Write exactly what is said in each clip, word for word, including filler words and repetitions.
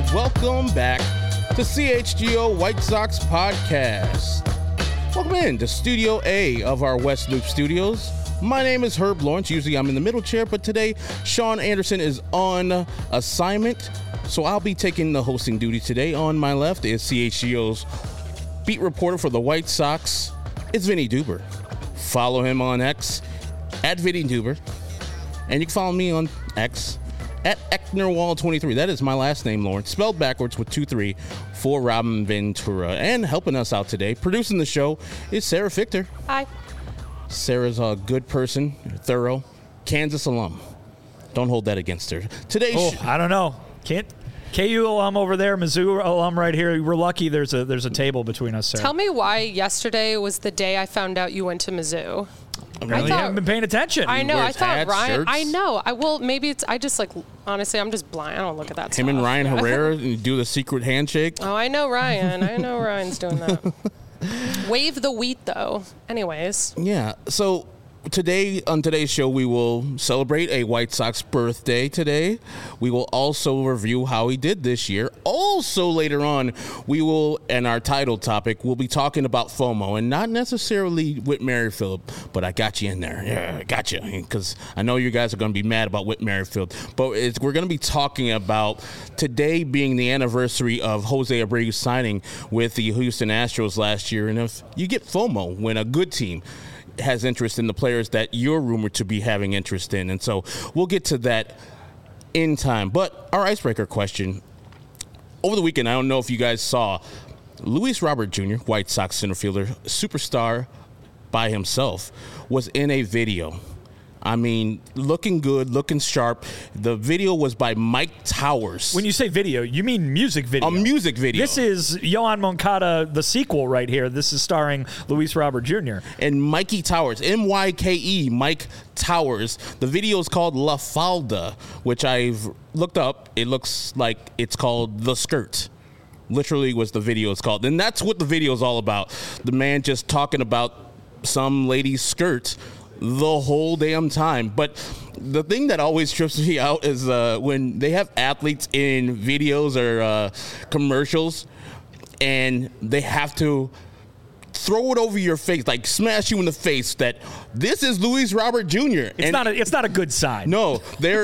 Welcome back to C H G O White Sox Podcast. Welcome in to Studio A of our West Loop Studios. My name is Herb Lawrence. Usually I'm in the middle chair, but today Sean Anderson is on assignment, so I'll be taking the hosting duty today. On my left is C H G O's beat reporter for the White Sox. It's Vinny Duber. Follow him on X at Vinny Duber, and you can follow me on X at Ecknerwall twenty-three. That is my last name, Lawrence, spelled backwards with two three for Robin Ventura. And helping us out today, producing the show, is Sarah Fichter. Hi. Sarah's a good person, thorough, Kansas alum. Don't hold that against her. Today, oh, sh- I don't know. Can't K U alum over there, Mizzou alum right here. We're lucky there's a there's a table between us, Sarah. Tell me why yesterday was the day I found out you went to Mizzou. Apparently you haven't been paying attention. I know. I thought hats, Ryan. shirts. I know. I will. Maybe it's. I just like. Honestly, I'm just blind. I don't look at that. Him stuff. and Ryan Herrera do the secret handshake. Oh, I know Ryan. I know Ryan's doing that. Wave the wheat, though. Anyways. Yeah. So today, on today's show, we will celebrate a White Sox birthday today. We will also review how he did this year. Also, later on, we will, and our title topic, we'll be talking about FOMO, and not necessarily Whit Merrifield, but I got you in there. Yeah, I got you, because I know you guys are going to be mad about Whit Merrifield, but it's, we're going to be talking about today being the anniversary of Jose Abreu signing with the Houston Astros last year, and if you get FOMO when a good team has interest in the players that you're rumored to be having interest in. And so we'll get to that in time. But our icebreaker question, over the weekend, I don't know if you guys saw, Luis Robert Junior, White Sox center fielder, superstar by himself, was in a video. I mean, looking good, looking sharp. The video was by Mike Towers. When you say video, you mean music video. A music video. This is Yohan Moncada, the sequel right here. This is starring Luis Robert Junior And Mikey Towers, M Y K E, Mike Towers. The video is called La Falda, which I've looked up. It looks like it's called The Skirt. Literally was the video is called. And that's what the video is all about. The man just talking about some lady's skirt the whole damn time. But the thing that always trips me out is uh, when they have athletes in videos or uh, commercials and they have to throw it over your face, like smash you in the face that this is Luis Robert Junior It's and not a, it's not a good sign. No, they're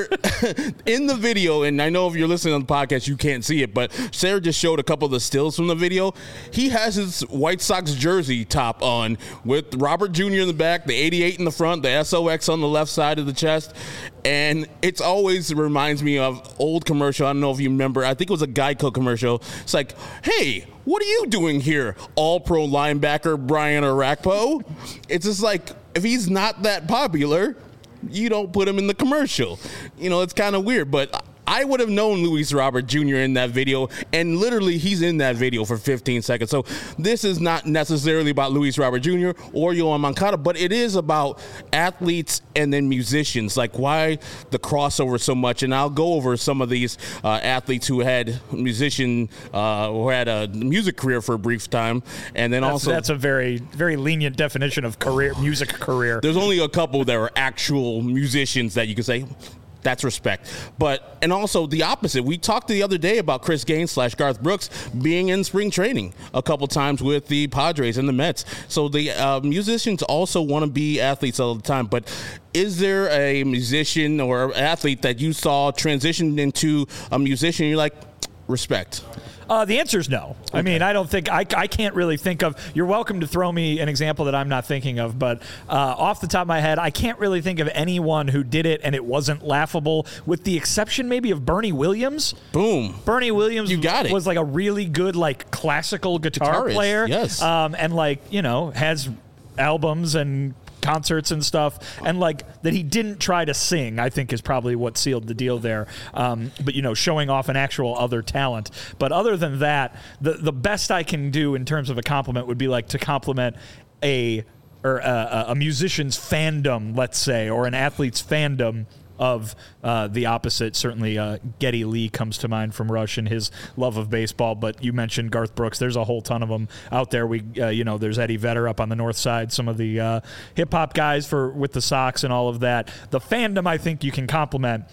in the video, and I know if you're listening on the podcast, you can't see it, but Sarah just showed a couple of the stills from the video. He has his White Sox jersey top on with Robert Junior in the back, the eighty-eight in the front, the S O X on the left side of the chest, and it's always reminds me of old commercial. I don't know if you remember. I think it was a Geico commercial. It's like, hey, what are you doing here, all-pro linebacker Brian Orakpo? It's just like, if he's not that popular, you don't put him in the commercial. You know, it's kind of weird, but I would have known Luis Robert Junior in that video, and literally he's in that video for fifteen seconds. So this is not necessarily about Luis Robert Junior or Yohan Moncada, but it is about athletes and then musicians, like why the crossover so much. And I'll go over some of these uh, athletes who had musician, uh, who had a music career for a brief time. And then that's, also that's a very, very lenient definition of career, music career. There's only a couple that are actual musicians that you can say, that's respect. But, and also the opposite. We talked the other day about Chris Gaines slash Garth Brooks being in spring training a couple times with the Padres and the Mets. So the uh, musicians also want to be athletes all the time. But is there a musician or athlete that you saw transition into a musician and you're like, respect? Uh, the answer is no. Okay. I mean, I don't think, I, I can't really think of, you're welcome to throw me an example that I'm not thinking of, but uh, off the top of my head, I can't really think of anyone who did it and it wasn't laughable, with the exception maybe of Bernie Williams. Boom. Bernie Williams you got it. was like a really good, like, classical guitar Guitarist, player. Yes. Um, and, like, you know, has albums and concerts and stuff, and like that he didn't try to sing, I think is probably what sealed the deal there. Um, but, you know, showing off an actual other talent. But other than that, the the best I can do in terms of a compliment would be like to compliment a or a, a musician's fandom, let's say, or an athlete's fandom of uh, the opposite. Certainly uh, Geddy Lee comes to mind from Rush and his love of baseball, but you mentioned Garth Brooks. There's a whole ton of them out there. We, uh, you know, there's Eddie Vedder up on the north side, some of the uh, hip-hop guys for with the Sox and all of that. The fandom, I think you can compliment.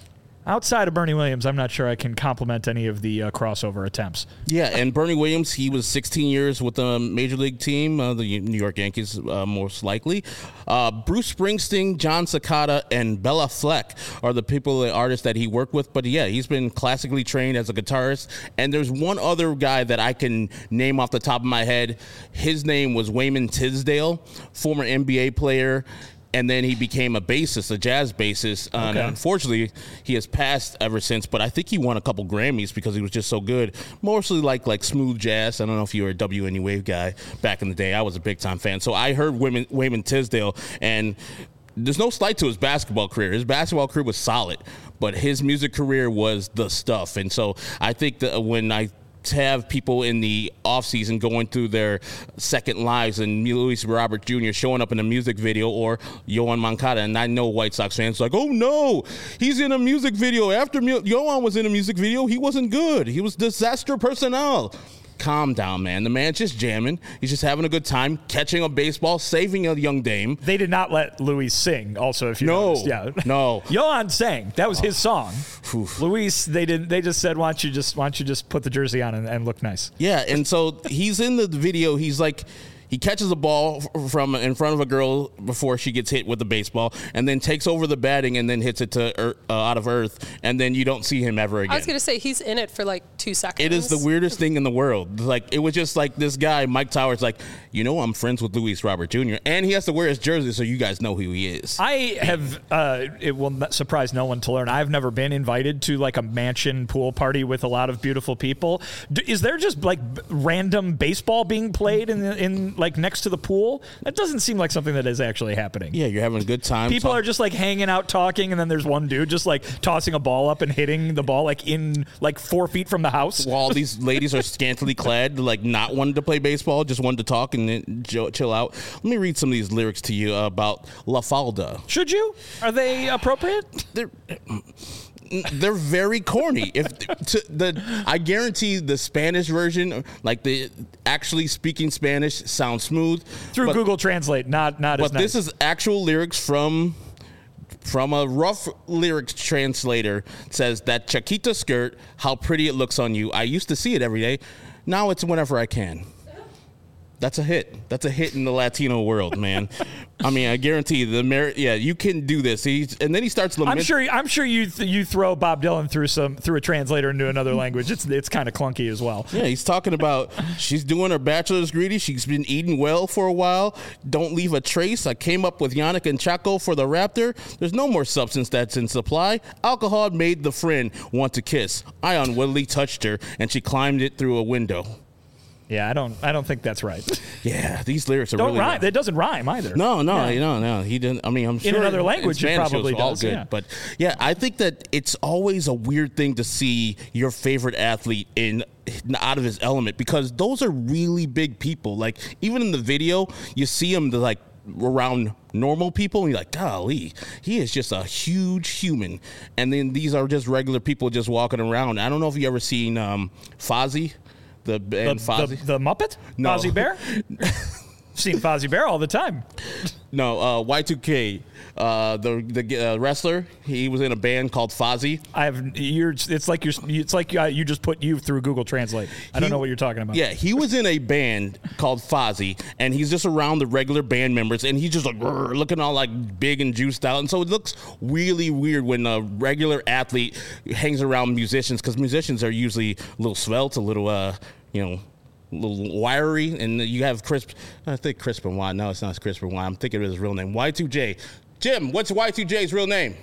Outside of Bernie Williams, I'm not sure I can compliment any of the uh, crossover attempts. Yeah, and Bernie Williams, he was sixteen years with the Major League team, uh, the New York Yankees, uh, most likely. Uh, Bruce Springsteen, John Cicada, and Bella Fleck are the people, the artists that he worked with. But yeah, he's been classically trained as a guitarist. And there's one other guy that I can name off the top of my head. His name was Wayman Tisdale, former N B A player. And then he became a bassist, a jazz bassist. Uh, Okay. And unfortunately, he has passed ever since. But I think he won a couple Grammys because he was just so good. Mostly like like smooth jazz. I don't know if you were a W N E Wave guy back in the day. I was a big time fan. So I heard Wayman, Wayman Tisdale, and there's no slight to his basketball career. His basketball career was solid, but his music career was the stuff. And so I think that when I to have people in the offseason going through their second lives and Luis Robert Junior showing up in a music video, or Yohan Moncada, and I know White Sox fans like, oh no, he's in a music video. After Yohan was in a music video, he wasn't good. He was disaster personnel. Calm down, man. The man's just jamming. He's just having a good time, catching a baseball, saving a young dame. They did not let Luis sing. Also, if you No, noticed. yeah, no. Yohan sang. That was his song. Oof. Luis, they didn't. They just said, "Why don't you just, why don't you just put the jersey on and, and look nice?" Yeah, and so he's in the video. He's like, he catches a ball from in front of a girl before she gets hit with the baseball, and then takes over the batting and then hits it to earth, uh, out of earth, and then you don't see him ever again. I was going to say, he's in it for like two seconds. It is the weirdest thing in the world. Like, it was just like this guy, Mike Towers, like, you know, I'm friends with Luis Robert Junior, and he has to wear his jersey so you guys know who he is. I have, uh, it will not surprise no one to learn, I've never been invited to like a mansion pool party with a lot of beautiful people. D- is there just like b- random baseball being played in, the, in like next to the pool? That doesn't seem like something that is actually happening. Yeah, you're having a good time. People talk- are just like hanging out talking, and then there's one dude just like tossing a ball up and hitting the ball like in like four feet from the house. While these ladies are scantily clad, like not wanting to play baseball, just wanting to talk and then jo- chill out. Let me read some of these lyrics to you about La Falda. Should you? Are they appropriate? They're they're very corny. If to the, I guarantee the Spanish version, like the actually speaking Spanish, sounds smooth Through but, Google Translate, not not as But nice. this is actual lyrics from from a rough lyrics translator. It says that Chiquita skirt, how pretty it looks on you. I used to see it every day. Now it's whenever I can. That's a hit. That's a hit in the Latino world, man. I mean, I guarantee you, the merit. Yeah, you can do this. He's, and then he starts lamenting. I'm sure. I'm sure you th- you throw Bob Dylan through some through a translator into another language. It's it's kind of clunky as well. Yeah, he's talking about she's doing her bachelor's degree. She's been eating well for a while. Don't leave a trace. I came up with Yannick and Chaco for the Raptor. There's no more substance that's in supply. Alcohol made the friend want to kiss. I unwittingly touched her, and she climbed it through a window. Yeah, I don't. I don't think that's right. Yeah, these lyrics are Don't really rhyme. rough. It doesn't rhyme either. No, no, Yeah. no, no. He didn't. I mean, I'm sure another language in it Spanish probably was all does, good. yeah. But yeah, I think that it's always a weird thing to see your favorite athlete in out of his element, because those are really big people. Like, even in the video, you see him like around normal people, and you're like, golly, he is just a huge human. And then these are just regular people just walking around. I don't know if you ever seen um, Fozzie. The The, band the, Fozzie. the Muppet? No. Fozzie Bear? Seen Fozzie Bear all the time. No, uh, Y two K, uh, the the uh, wrestler. He was in a band called Fozzie. I have. You're. It's like you're. It's like uh, you just put you through Google Translate. I don't He- know what you're talking about. Yeah, he was in a band called Fozzie, and he's just around the regular band members, and he's just like "Rrr," looking all like big and juiced out, and so it looks really weird when a regular athlete hangs around musicians, because musicians are usually a little svelte, a little, uh, you know. A little wiry, and you have Crisp. I think Crispin Y. No, it's not Crispin Y. I'm thinking of his real name. Y two J. Jim, what's Y two J's real name?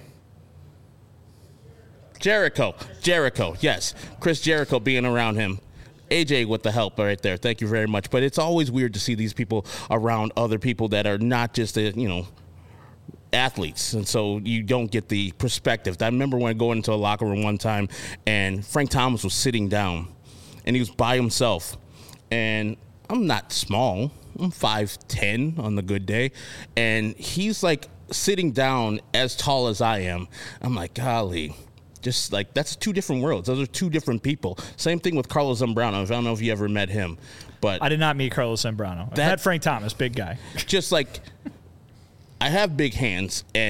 Jericho. Jericho. Yes, Chris Jericho being around him. A J with the help right there. Thank you very much. But it's always weird to see these people around other people that are not just a, you know, athletes, and so you don't get the perspective. I remember when I go into a locker room one time, and Frank Thomas was sitting down, and he was by himself. And I'm not small. I'm five ten on the good day. And he's like sitting down as tall as I am. I'm like, golly, just like, that's two different worlds. Those are two different people. Same thing with Carlos Zambrano. I don't know if you ever met him, but I did not meet Carlos Zambrano. I That- met Frank Thomas, big guy. just like, I have big hands, and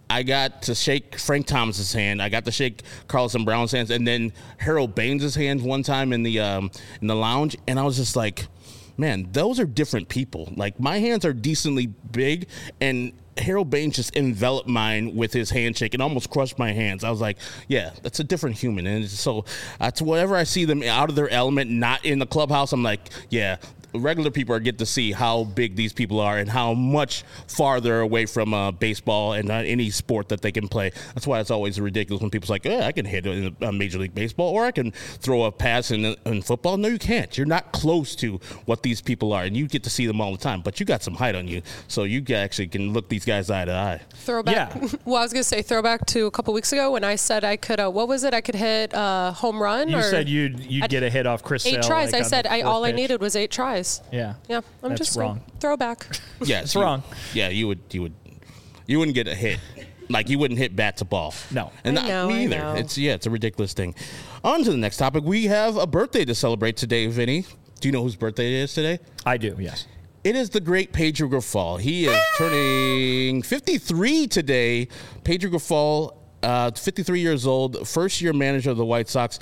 I got to shake Frank Thomas's hand. I got to shake Carlson Brown's hands, and then Harold Baines' hand one time in the um, in the lounge, and I was just like, man, those are different people. Like, my hands are decently big, and Harold Baines just enveloped mine with his handshake and almost crushed my hands. I was like, yeah, that's a different human. And so that's whenever I see them out of their element, not in the clubhouse, I'm like, yeah, regular people are get to see how big these people are and how much farther away from uh, baseball and uh, any sport that they can play. That's why it's always ridiculous when people's like, yeah, I can hit in a Major League Baseball, or I can throw a pass in, in football. No, you can't. You're not close to what these people are, and you get to see them all the time. But you got some height on you, so you actually can look these guys eye to eye. Throwback. Yeah. Well, I was going to say throwback to a couple weeks ago when I said I could, uh, what was it? I could hit a uh, home run? You or said you'd, you'd I'd, get a hit off Chris Eight Sale, tries. like, I said I, all pitch. I needed was eight tries. Yeah. Yeah. I'm That's just wrong. Throwback. Yeah, It's you- wrong. Yeah, you would, you would, you wouldn't get a hit. Like, you wouldn't hit bat to ball. No. And I not know, me I either. know. It's yeah, it's a ridiculous thing. On to the next topic. We have a birthday to celebrate today, Vinny. Do you know whose birthday it is today? I do, yes. It is the great Pedro Grifol. He is turning fifty-three today. Pedro Grifol, uh, fifty-three years old, first year manager of the White Sox.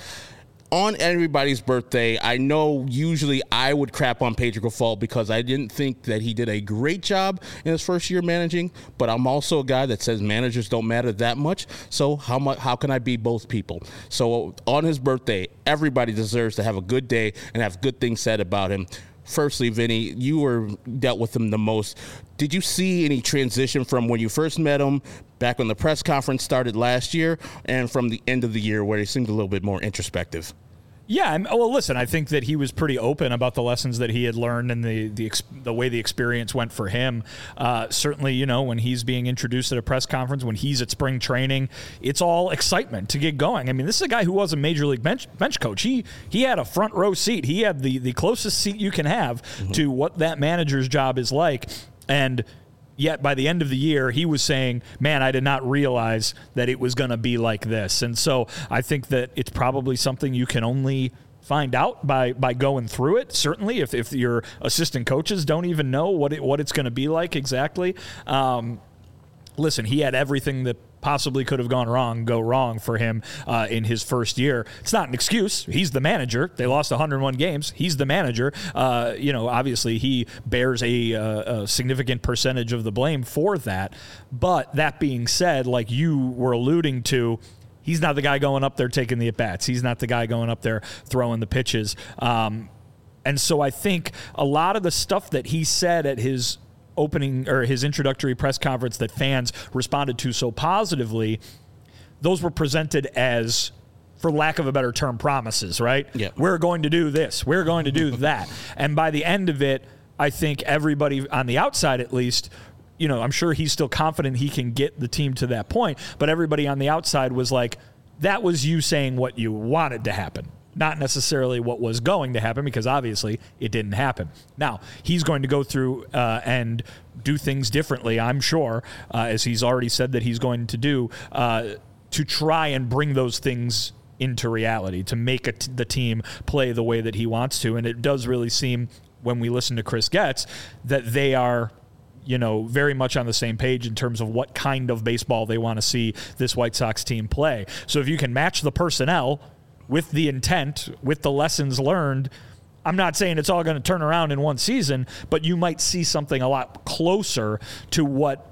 On everybody's birthday, I know usually I would crap on Pedro Grifol because I didn't think that he did a great job in his first year managing, but I'm also a guy that says managers don't matter that much, so how much, how can I be both people? So on his birthday, everybody deserves to have a good day and have good things said about him. Firstly, Vinny, you were dealt with him the most. Did you see any transition from when you first met him back when the press conference started last year and from the end of the year where he seemed a little bit more introspective? Yeah, I'm, well, listen, I think that he was pretty open about the lessons that he had learned and the the, ex, the way the experience went for him. Uh, certainly, you know, when he's being introduced at a press conference, when he's at spring training, it's all excitement to get going. I mean, this is a guy who was a major league bench bench coach. He he had a front row seat. He had the, the closest seat you can have mm-hmm. to what that manager's job is like. And yet, by the end of the year, he was saying, man, I did not realize that it was going to be like this. And so I think that it's probably something you can only find out by by going through it. Certainly, if, if your assistant coaches don't even know what it, what it's going to be like exactly. Um, listen, he had everything that possibly could have gone wrong go wrong for him uh, in his first year. It's not an excuse. He's the manager. They lost one hundred one games. He's the manager. Uh, you know, obviously he bears a, a, a significant percentage of the blame for that. But that being said, like you were alluding to, he's not the guy going up there taking the at-bats. He's not the guy going up there throwing the pitches. Um, and so I think a lot of the stuff that he said at his opening or his introductory press conference that fans responded to so positively, those were presented as, for lack of a better term, promises, right? Yeah. We're going to do this. We're going to do that. And by the end of it, I think everybody on the outside, at least, you know, I'm sure he's still confident he can get the team to that point, but everybody on the outside was like, that was you saying what you wanted to happen. Not necessarily what was going to happen, because obviously it didn't happen. Now, he's going to go through uh, and do things differently, I'm sure, uh, as he's already said that he's going to do, uh, to try and bring those things into reality, to make a t- the team play the way that he wants to. And it does really seem, when we listen to Chris Getz, that they are, you know, very much on the same page in terms of what kind of baseball they want to see this White Sox team play. So if you can match the personnel with the intent, with the lessons learned, I'm not saying it's all going to turn around in one season, but you might see something a lot closer to what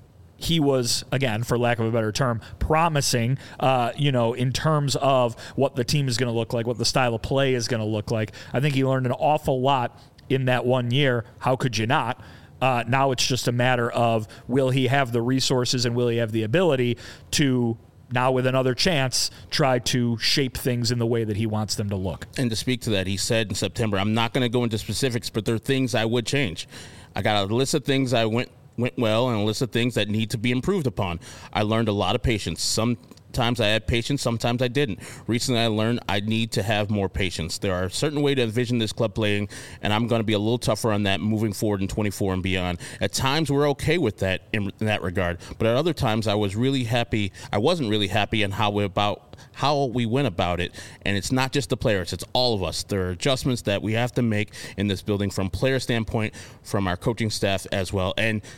he was, again, for lack of a better term, promising, uh, you know, in terms of what the team is going to look like, what the style of play is going to look like. I think he learned an awful lot in that one year. How could you not? Uh, now it's just a matter of, will he have the resources and will he have the ability to, now with another chance, try to shape things in the way that he wants them to look. And to speak to that, he said in September, I'm not going to go into specifics, but there are things I would change. I got a list of things I went went well and a list of things that need to be improved upon. I learned a lot of patience. Sometimes I had patience, sometimes I didn't. Recently I learned I need to have more patience. There are a certain way to envision this club playing, and I'm going to be a little tougher on that moving forward in twenty-four and beyond. At times we're okay with that in, in that regard, but at other times I was really happy. I wasn't really happy in how we about how we went about it. And it's not just the players, it's all of us. There are adjustments that we have to make in this building from player standpoint, from our coaching staff as well. And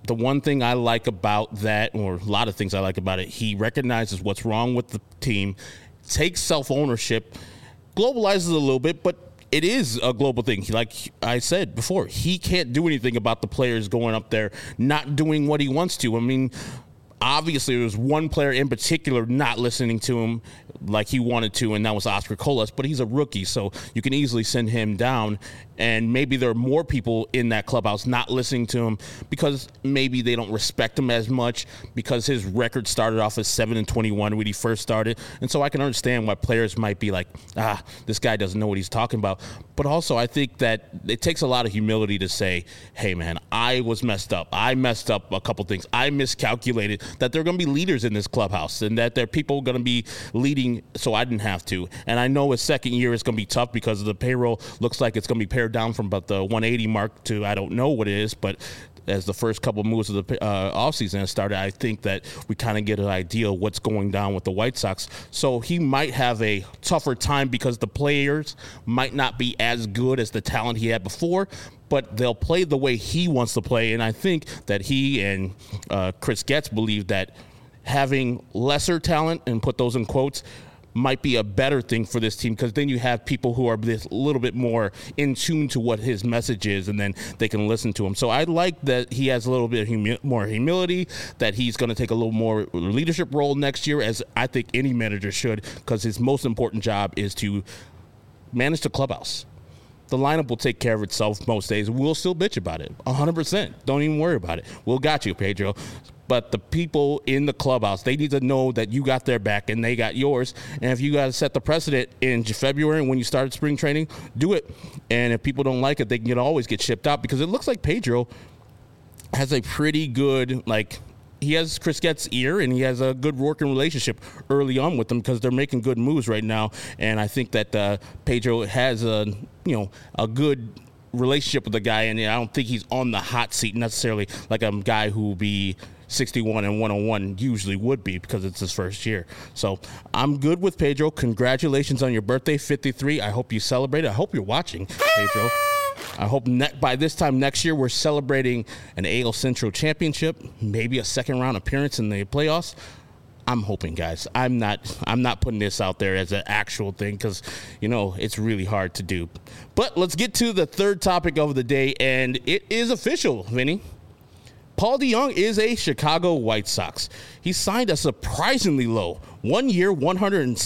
the one thing I like about that, or a lot of things I like about it, he recognizes what's wrong with the team, takes self-ownership, globalizes it a little bit, but it is a global thing. Like I said before, he can't do anything about the players going up there not doing what he wants to. I mean, obviously, there was one player in particular not listening to him like he wanted to, and that was Oscar Colas, but he's a rookie, so you can easily send him down. And maybe there are more people in that clubhouse not listening to him because maybe they don't respect him as much because his record started off as seven and twenty-one when he first started. And so I can understand why players might be like, ah, this guy doesn't know what he's talking about. But also I think that it takes a lot of humility to say, hey, man, I was messed up. I messed up a couple things. I miscalculated that there are going to be leaders in this clubhouse and that there are people going to be leading, so I didn't have to. And I know his second year is going to be tough because the payroll looks like it's going to be pared down from about the one eighty mark to I don't know what it is, but as the first couple of moves of the uh, offseason has started, I think that we kind of get an idea of what's going down with the White Sox. So he might have a tougher time because the players might not be as good as the talent he had before, but they'll play the way he wants to play. And I think that he and uh, Chris Getz believe that having lesser talent, and put those in quotes, might be a better thing for this team because then you have people who are a little bit more in tune to what his message is, and then they can listen to him. So I like that he has a little bit of humi- more humility, that he's going to take a little more leadership role next year, as I think any manager should, because his most important job is to manage the clubhouse. The lineup will take care of itself most days. We'll still bitch about it, one hundred percent. Don't even worry about it. We'll got you, Pedro. But the people in the clubhouse, they need to know that you got their back and they got yours. And if you got to set the precedent in February when you started spring training, do it. And if people don't like it, they can get, always get shipped out, because it looks like Pedro has a pretty good, like, he has Chris Getz' ear, and he has a good working relationship early on with them because they're making good moves right now. And I think that uh, Pedro has a, you know, a good relationship with the guy, and I don't think he's on the hot seat necessarily like a guy who will be sixty-one and one oh one usually would be, because it's his first year. So I'm good with Pedro. Congratulations on your birthday, fifty-three. I hope you celebrate it. I hope you're watching, Pedro. I hope ne- by this time next year we're celebrating an A L Central championship, maybe a second round appearance in the playoffs. I'm hoping, guys. I'm not I'm not putting this out there as an actual thing because, you know, it's really hard to do. But let's get to the third topic of the day, and it is official, Vinny. Paul DeJong is a Chicago White Sox. He signed a surprisingly low one-year, one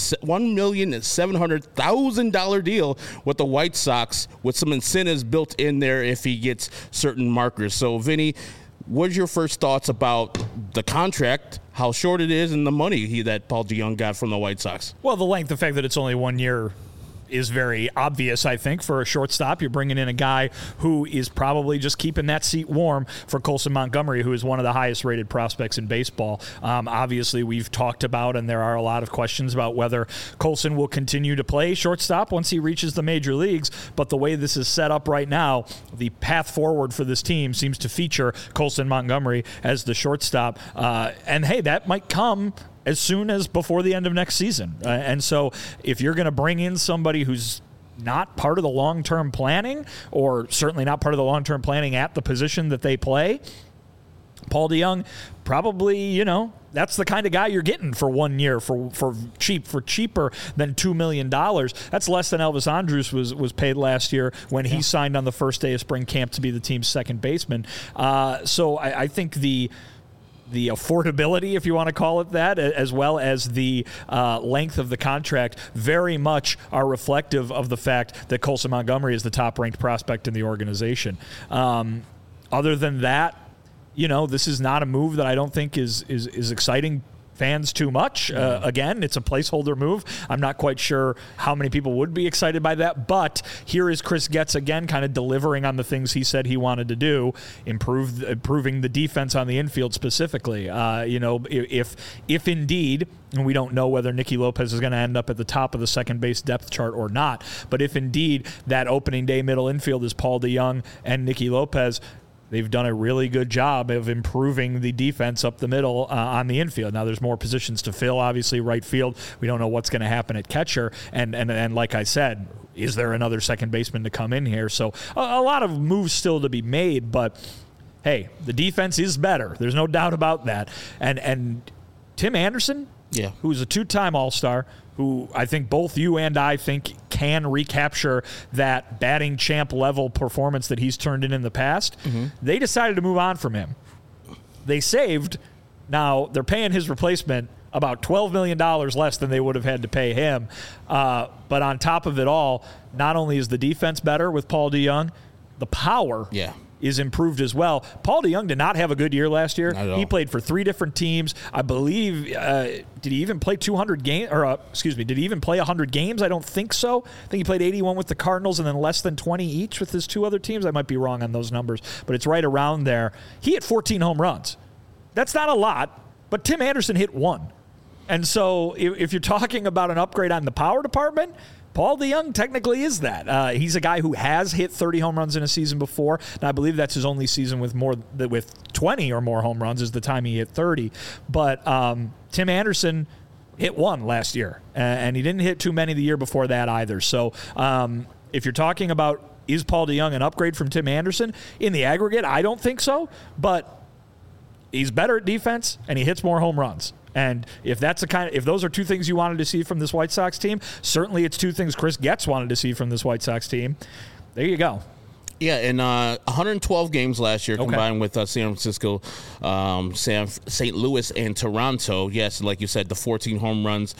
million seven hundred thousand dollars deal with the White Sox, with some incentives built in there if he gets certain markers. So, Vinny, what's your first thoughts about the contract, how short it is, and the money he, that Paul DeJong got from the White Sox? Well, the length, the fact that it's only one year is very obvious, I think, for a shortstop. You're bringing in a guy who is probably just keeping that seat warm for Colson Montgomery, who is one of the highest-rated prospects in baseball. Um, obviously, we've talked about, and there are a lot of questions about whether Colson will continue to play shortstop once he reaches the major leagues, but the way this is set up right now, the path forward for this team seems to feature Colson Montgomery as the shortstop. Uh, and, hey, that might come as soon as before the end of next season. Uh, and so if you're going to bring in somebody who's not part of the long-term planning, or certainly not part of the long-term planning at the position that they play, Paul DeJong probably, you know, that's the kind of guy you're getting for one year for for cheap, for cheaper than two million dollars. That's less than Elvis Andrus was, was paid last year when he yeah. signed on the first day of spring camp to be the team's second baseman. Uh, so I, I think the the affordability, if you want to call it that, as well as the uh, length of the contract, very much are reflective of the fact that Colson Montgomery is the top-ranked prospect in the organization. Um, other than that, you know, this is not a move that I don't think is is, is exciting fans too much. Uh, again, it's a placeholder move. I'm not quite sure how many people would be excited by that, but here is Chris Getz again kind of delivering on the things he said he wanted to do, improve improving the defense on the infield specifically. Uh, you know, if if indeed, and we don't know whether Nicky Lopez is going to end up at the top of the second base depth chart or not, but if indeed that opening day middle infield is Paul DeJong and Nicky Lopez, they've done a really good job of improving the defense up the middle uh, on the infield. Now, there's more positions to fill, obviously, right field. We don't know what's going to happen at catcher. And, and, and like I said, is there another second baseman to come in here? So a, a lot of moves still to be made, but hey, the defense is better. There's no doubt about that. And and Tim Anderson, yeah, who's a two-time All-Star, who I think both you and I think can recapture that batting champ level performance that he's turned in in the past, mm-hmm. they decided to move on from him. They saved. Now, they're paying his replacement about twelve million dollars less than they would have had to pay him. Uh, but on top of it all, not only is the defense better with Paul DeJong, the power yeah. is improved as well. Paul DeJong did not have a good year last year. He played for three different teams. I believe, uh, did he even play two hundred games? Or, uh, excuse me, did he even play one hundred games? I don't think so. I think he played eighty-one with the Cardinals and then less than twenty each with his two other teams. I might be wrong on those numbers, but it's right around there. He hit fourteen home runs. That's not a lot, but Tim Anderson hit one. And so if, if you're talking about an upgrade on the power department, Paul DeJong technically is that. Uh, he's a guy who has hit thirty home runs in a season before, and I believe that's his only season with more with twenty or more home runs is the time he hit thirty. But um, Tim Anderson hit one last year, and he didn't hit too many the year before that either. So um, if you're talking about is Paul DeJong an upgrade from Tim Anderson, in the aggregate, I don't think so, but he's better at defense, and he hits more home runs. And if that's the kind of, if those are two things you wanted to see from this White Sox team, certainly it's two things Chris Getz wanted to see from this White Sox team. There you go. Yeah, and uh, one hundred twelve games last year okay. combined with uh, San Francisco, um, San, Saint Louis, and Toronto. Yes, like you said, the fourteen home runs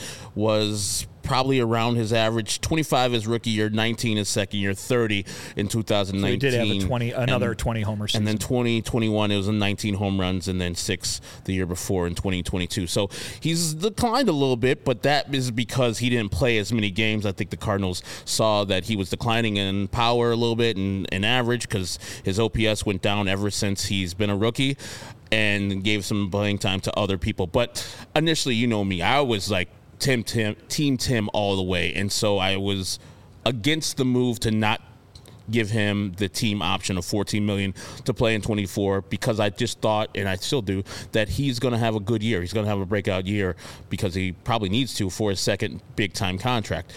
was probably around his average. twenty-five his rookie year, nineteen his second year, thirty in two thousand nineteen. So he did have a twenty, another and, twenty homer season. And then twenty twenty-one, it was a nineteen home runs, and then six the year before in twenty twenty-two. So he's declined a little bit, but that is because he didn't play as many games. I think the Cardinals saw that he was declining in power a little bit and in average because his O P S went down ever since he's been a rookie, and gave some playing time to other people. But initially, you know me, I was like, Tim, Tim, Team Tim all the way. And so I was against the move to not give him the team option of fourteen million dollars to play in twenty-four because I just thought, and I still do, that he's going to have a good year. He's going to have a breakout year because he probably needs to for his second big-time contract.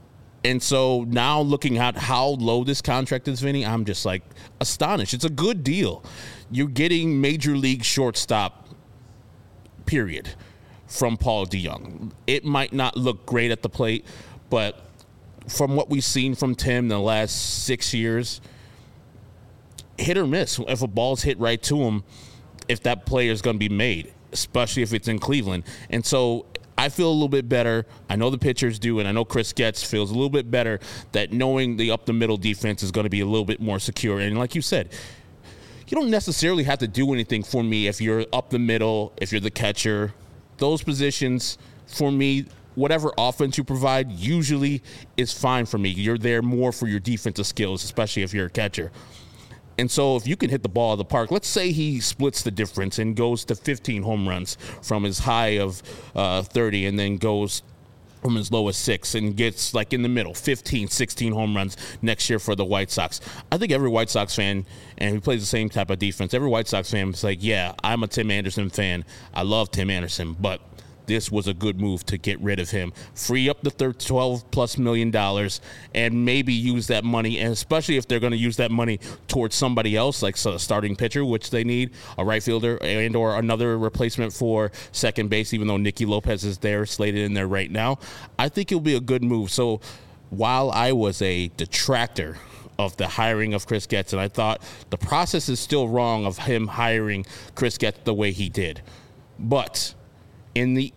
And so now looking at how low this contract is, Vinny, I'm just like astonished. It's a good deal. You're getting major league shortstop, period, from Paul DeJong. It might not look great at the plate, but from what we've seen from Tim the last six years, hit or miss. If a ball's hit right to him, if that player is going to be made, especially if it's in Cleveland. And so I feel a little bit better. I know the pitchers do, and I know Chris Getz feels a little bit better that knowing the up-the-middle defense is going to be a little bit more secure. And like you said, you don't necessarily have to do anything for me if you're up the middle, if you're the catcher. Those positions, for me, whatever offense you provide usually is fine for me. You're there more for your defensive skills, especially if you're a catcher. And so if you can hit the ball of the park, let's say he splits the difference and goes to fifteen home runs from his high of uh, thirty and then goes from as low as six and gets like in the middle, fifteen, sixteen home runs next year for the White Sox. I think every White Sox fan, and he plays the same type of defense, every White Sox fan is like, yeah, I'm a Tim Anderson fan. I love Tim Anderson, but this was a good move to get rid of him, free up the twelve plus million dollars, and maybe use that money, and especially if they're going to use that money towards somebody else, like a starting pitcher, which they need, a right fielder, and or another replacement for second base, even though Nicky Lopez is there, slated in there right now. I think it'll be a good move. So while I was a detractor of the hiring of Chris Getz, and I thought the process is still wrong of him hiring Chris Getz the way he did, but in the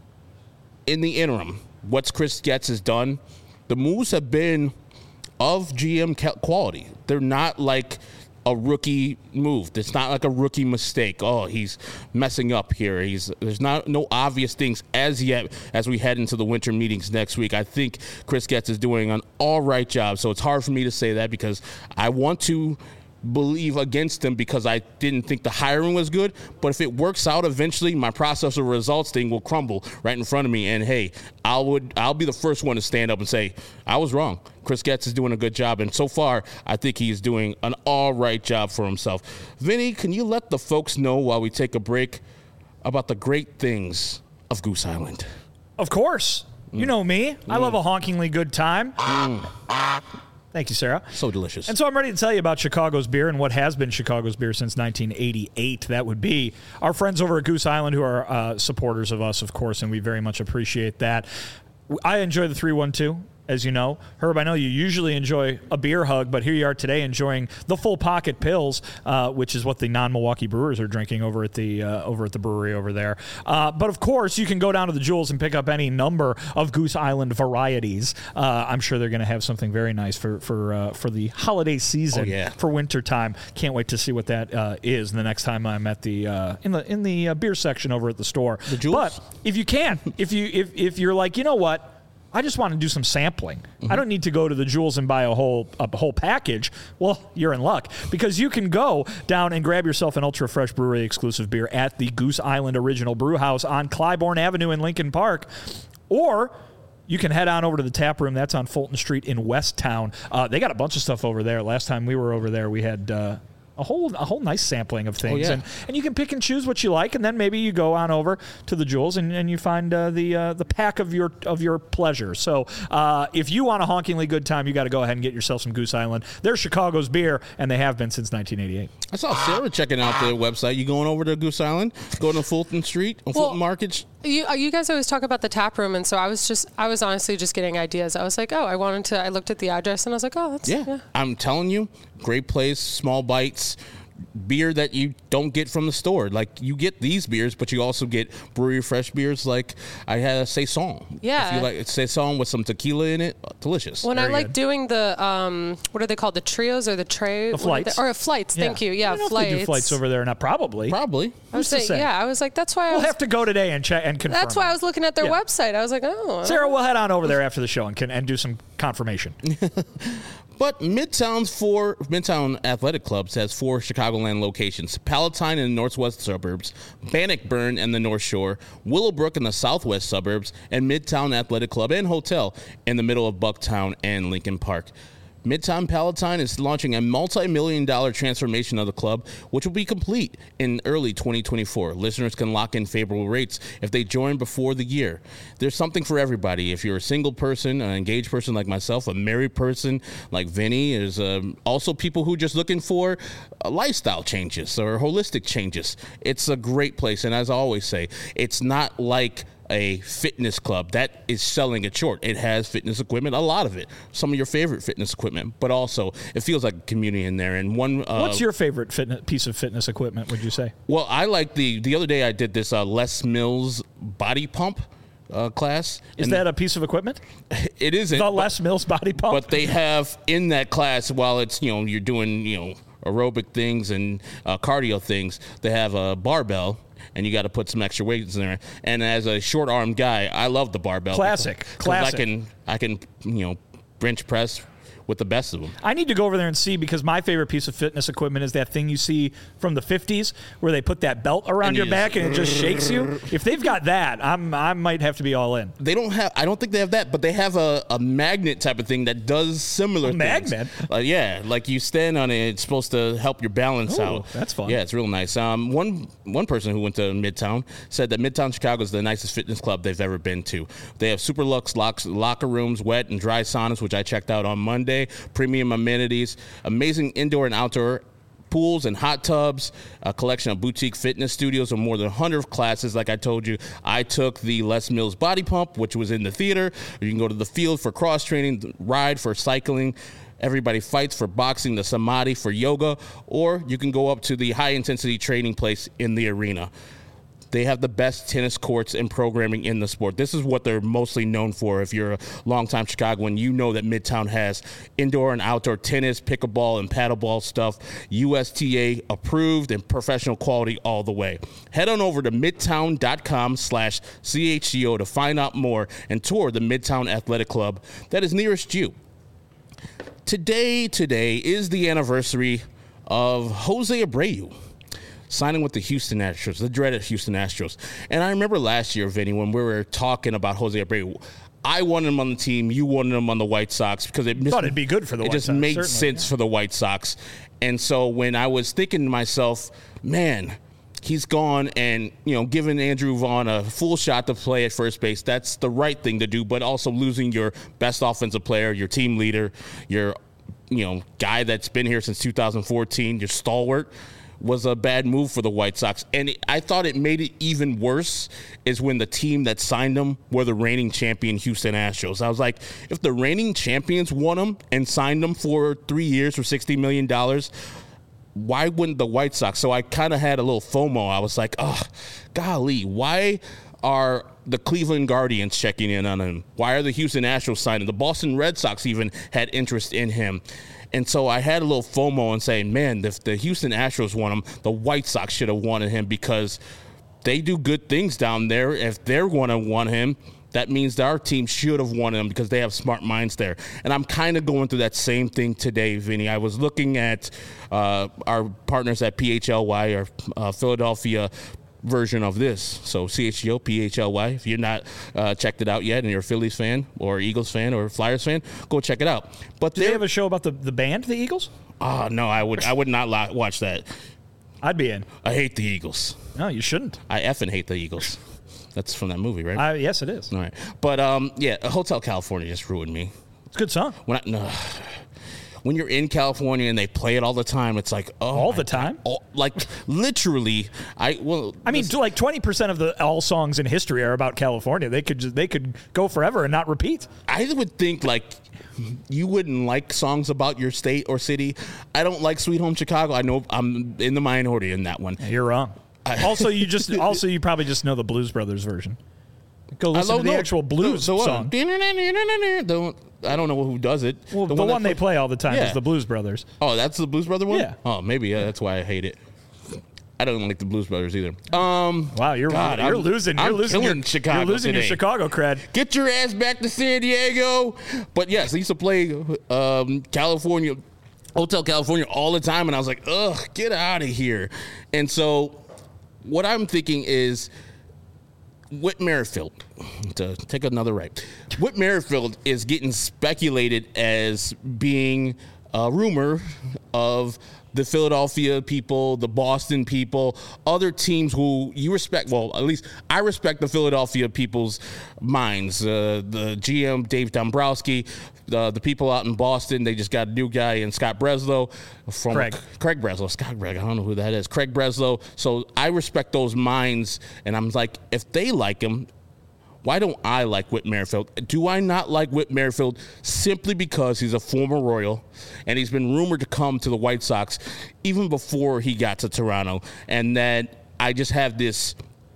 In the interim, what's Chris Getz has done, the moves have been of G M quality. They're not like a rookie move. It's not like a rookie mistake. Oh, he's messing up here. He's there's not no obvious things as yet as we head into the winter meetings next week. I think Chris Getz is doing an all right job. So it's hard for me to say that because I want to believe against him because I didn't think the hiring was good. But if it works out eventually, my process of results thing will crumble right in front of me. And hey, I would I'll be the first one to stand up and say I was wrong. Chris Getz is doing a good job, and so far I think he's doing an all right job for himself. Vinny, can you let the folks know while we take a break about the great things of Goose Island? Of course. Mm. You know me. Mm. I love a honkingly good time. Mm. Thank you, Sarah. So delicious. And so I'm ready to tell you about Chicago's beer and what has been Chicago's beer since nineteen eighty-eight. That would be our friends over at Goose Island, who are uh, supporters of us, of course, and we very much appreciate that. I enjoy the three one two. As you know, Herb, I know you usually enjoy a beer hug, but here you are today enjoying the full pocket pills, uh, which is what the non-Milwaukee brewers are drinking over at the uh, over at the brewery over there. Uh, but of course, you can go down to the Jewels and pick up any number of Goose Island varieties. Uh, I'm sure they're going to have something very nice for for uh, for the holiday season, oh, yeah. for winter time. Can't wait to see what that uh, is the next time I'm at the uh, in the in the uh, beer section over at the store. The Jewels? But if you can, if you if if you're like, you know what? I just want to do some sampling. Mm-hmm. I don't need to go to the Jewels and buy a whole a whole package. Well, you're in luck because you can go down and grab yourself an Ultra Fresh Brewery exclusive beer at the Goose Island Original Brew House on Clybourne Avenue in Lincoln Park, or you can head on over to the tap room. That's on Fulton Street in Westtown. Uh, they got a bunch of stuff over there. Last time we were over there, we had uh, a whole a whole nice sampling of things. Oh, yeah. and, and you can pick and choose what you like, and then maybe you go on over to the Jewels and, and you find uh, the uh, the pack of your of your pleasure. So uh, if you want a honkingly good time, you got to go ahead and get yourself some Goose Island. They're Chicago's beer, and they have been since nineteen eighty-eight. I saw Sarah checking out the website. You going over to Goose Island? Going to Fulton Street on Well, Fulton Market? You, you guys always talk about the tap room, and so I was just, I was honestly just getting ideas. I was like, oh, I wanted to, I looked at the address, and I was like, oh, that's, Yeah. yeah. I'm telling you, great place, small bites. Beer that you don't get from the store. Like, you get these beers, but you also get brewery fresh beers like I had a Saison. Yeah. If you like Saison with some tequila in it, delicious. When Very I like good. doing the, um, what are they called? The trios or the tray? The what are they- flights. Or flights, thank you. Yeah, I don't know flights. if they do flights over there or not. Probably. Probably. I was Who's to saying, say? yeah, I was like, that's why I We'll was, have to go today and check and confirm. that's why I was looking at their Yeah. website. I was like, oh. Sarah, we'll head on over there after the show and can and do some confirmation. But Midtown's four Midtown Athletic Clubs has four Chicagoland locations: Palatine in the northwest suburbs, Bannockburn in the North Shore, Willowbrook in the southwest suburbs, and Midtown Athletic Club and Hotel in the middle of Bucktown and Lincoln Park. Midtown Palatine is launching a multi-million dollar transformation of the club, which will be complete in early twenty twenty-four. Listeners can lock in favorable rates if they join before the year. There's something for everybody. If you're a single person, an engaged person like myself, a married person like Vinny, there's um, also people who are just looking for uh, lifestyle changes or holistic changes. It's a great place, and as I always say, it's not like a fitness club that is selling it short. It has fitness equipment, a lot of it, some of your favorite fitness equipment, but also it feels like a community in there. And one, uh, What's your favorite fitness, piece of fitness equipment, would you say? well, I like the the other day I did this uh, Les Mills body pump uh, class. Is and that a piece of equipment? it isn't? The but- Les Mills body pump? But they have in that class, while it's, you know, you're doing, you know, aerobic things and uh, cardio things, they have a barbell. And you got to put some extra weights in there. And as a short-armed guy, I love the barbell. Classic. because Classic. I can, I can, you know, bench press with the best of them. I need to go over there and see, because my favorite piece of fitness equipment is that thing you see from the fifties where they put that belt around And your you back just- and it just shakes you. If they've got that, I'm I might have to be all in. They don't have. I don't think they have that, but they have a, a magnet type of thing that does similar. A things. magnet? Uh, yeah, like you stand on it. It's supposed to help your balance Ooh, out. that's fun. Yeah, it's real nice. Um, one one person who went to Midtown said that Midtown Chicago is the nicest fitness club they've ever been to. They have super luxe locks, locker rooms, wet and dry saunas, which I checked out on Monday. Premium amenities, amazing indoor and outdoor pools and hot tubs, a collection of boutique fitness studios and more than one hundred classes. Like I told you, I took the Les Mills body pump, which was in the theater. You can go to the field for cross training, ride for cycling. Everybody Fights for boxing, the Samadhi for yoga, or you can go up to the high intensity training place in the arena. They have the best tennis courts and programming in the sport. This is what they're mostly known for. If you're a longtime Chicagoan, you know that Midtown has indoor and outdoor tennis, pickleball, and paddleball stuff, U S T A approved and professional quality all the way. Head on over to midtown.com slash CHGO to find out more and tour the Midtown Athletic Club that is nearest you. Today, today is the anniversary of Jose Abreu signing with the Houston Astros, the dreaded Houston Astros. And I remember last year, Vinny, when we were talking about Jose Abreu, I wanted him on the team, you wanted him on the White Sox because it Thought it'd be good for the it White just Sox, made certainly, sense yeah. for the White Sox. And so when I was thinking to myself, man, he's gone, and, you know, giving Andrew Vaughn a full shot to play at first base, that's the right thing to do, but also losing your best offensive player, your team leader, your you know, guy that's been here since two thousand fourteen, your stalwart, was a bad move for the White Sox. And it, I thought it made it even worse is when the team that signed him were the reigning champion Houston Astros. I was like, if the reigning champions won him and signed him for three years for sixty million dollars, why wouldn't the White Sox? So I kind of had a little FOMO. I was like, oh, golly, why are the Cleveland Guardians checking in on him? Why are the Houston Astros signing? The Boston Red Sox even had interest in him. And so I had a little FOMO and saying, man, if the Houston Astros want him, the White Sox should have wanted him because they do good things down there. If they're going to want him, that means that our team should have wanted him because they have smart minds there. And I'm kind of going through that same thing today, Vinny. I was looking at uh, our partners at P H L Y, or uh, Philadelphia version of this. So C H G O, P H L Y. If you're not uh, checked it out yet and you're a Phillies fan or Eagles fan or Flyers fan, go check it out. But do they have a show about the, the band, the Eagles? Oh, no, I would I would not li- watch that. I'd be in. I hate the Eagles. No, you shouldn't. I effing hate the Eagles. That's from that movie, right? Uh, yes, it is. All right. But, um, yeah, Hotel California just ruined me. It's a good song. When I, no. When you're in California and they play it all the time, it's like, oh, all the time, all, like literally. I well, I mean, this, like twenty percent of the all songs in history are about California. They could just, they could go forever and not repeat. I would think like you wouldn't like songs about your state or city. I don't like Sweet Home Chicago. I know I'm in the minority in that one. You're wrong. I, also, you just also you probably just know the Blues Brothers version. Go listen to the know. actual blues so, so song. Don't. I don't know who does it. Well, the, the one, one they play, play all the time yeah. is the Blues Brothers. Oh, that's the Blues Brother one? Yeah. Oh, maybe yeah, that's why I hate it. I don't like the Blues Brothers either. Um, wow, you're God, you're I'm, losing. I'm You're losing your Chicago. You're losing today. your Chicago cred. Get your ass back to San Diego. But yes, I used to play um, California, Hotel California all the time, and I was like, ugh, get out of here. And so, what I'm thinking is, Whit Merrifield, to take another right, Whit Merrifield is getting speculated as being a rumor of the Philadelphia people, the Boston people, other teams who you respect. Well, at least I respect the Philadelphia people's minds. Uh, the G M, Dave Dombrowski, the, the people out in Boston, they just got a new guy in Scott Breslow. From Craig. Craig Breslow. Scott Craig, I don't know who that is. Craig Breslow. So I respect those minds, and I'm like, if they like him, why don't I like Whit Merrifield? Do I not like Whit Merrifield simply because he's a former Royal and he's been rumored to come to the White Sox even before he got to Toronto, and that I just have this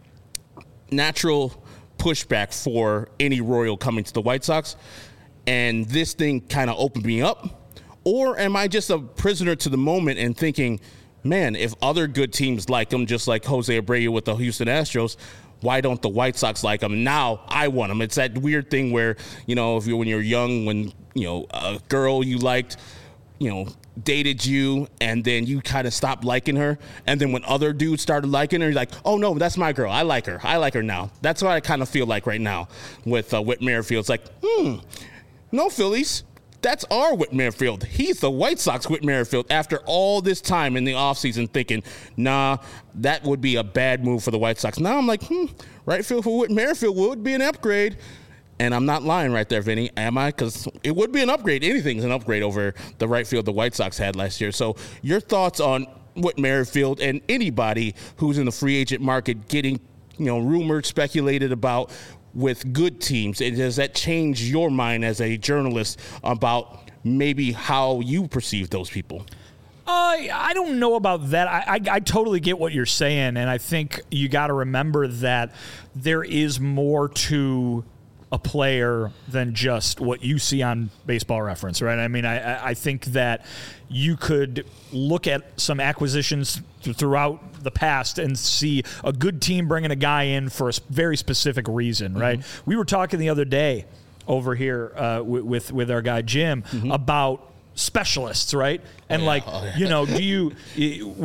natural pushback for any Royal coming to the White Sox, and this thing kind of opened me up? Or am I just a prisoner to the moment and thinking, man, if other good teams like him, just like Jose Abreu with the Houston Astros, why don't the White Sox like him? Now I want him. It's that weird thing where, you know, if you when you're young, when, you know, a girl you liked, you know, dated you, and then you kind of stopped liking her. And then when other dudes started liking her, you're like, oh, no, that's my girl. I like her. I like her now. That's what I kind of feel like right now with uh, Whit Merrifield. It's like, hmm, no, Phillies. That's our Whit Merrifield. He's the White Sox Whit Merrifield after all this time in the offseason thinking, nah, that would be a bad move for the White Sox. Now I'm like, hmm, right field for Whit Merrifield would be an upgrade. And I'm not lying right there, Vinny, am I? Because it would be an upgrade. Anything's an upgrade over the right field the White Sox had last year. So your thoughts on Whit Merrifield and anybody who's in the free agent market getting, you know, rumored, speculated about with good teams, and does that change your mind as a journalist about maybe how you perceive those people? Uh, I don't know about that. I, I, I totally get what you're saying, and I think you got to remember that there is more to a player than just what you see on Baseball Reference, right? I mean, I, I think that you could look at some acquisitions throughout the past and see a good team bringing a guy in for a very specific reason, right? Mm-hmm. We were talking the other day over here uh, with with our guy Jim mm-hmm. about specialists, right? And oh, yeah. like, oh, yeah. you know, do you would you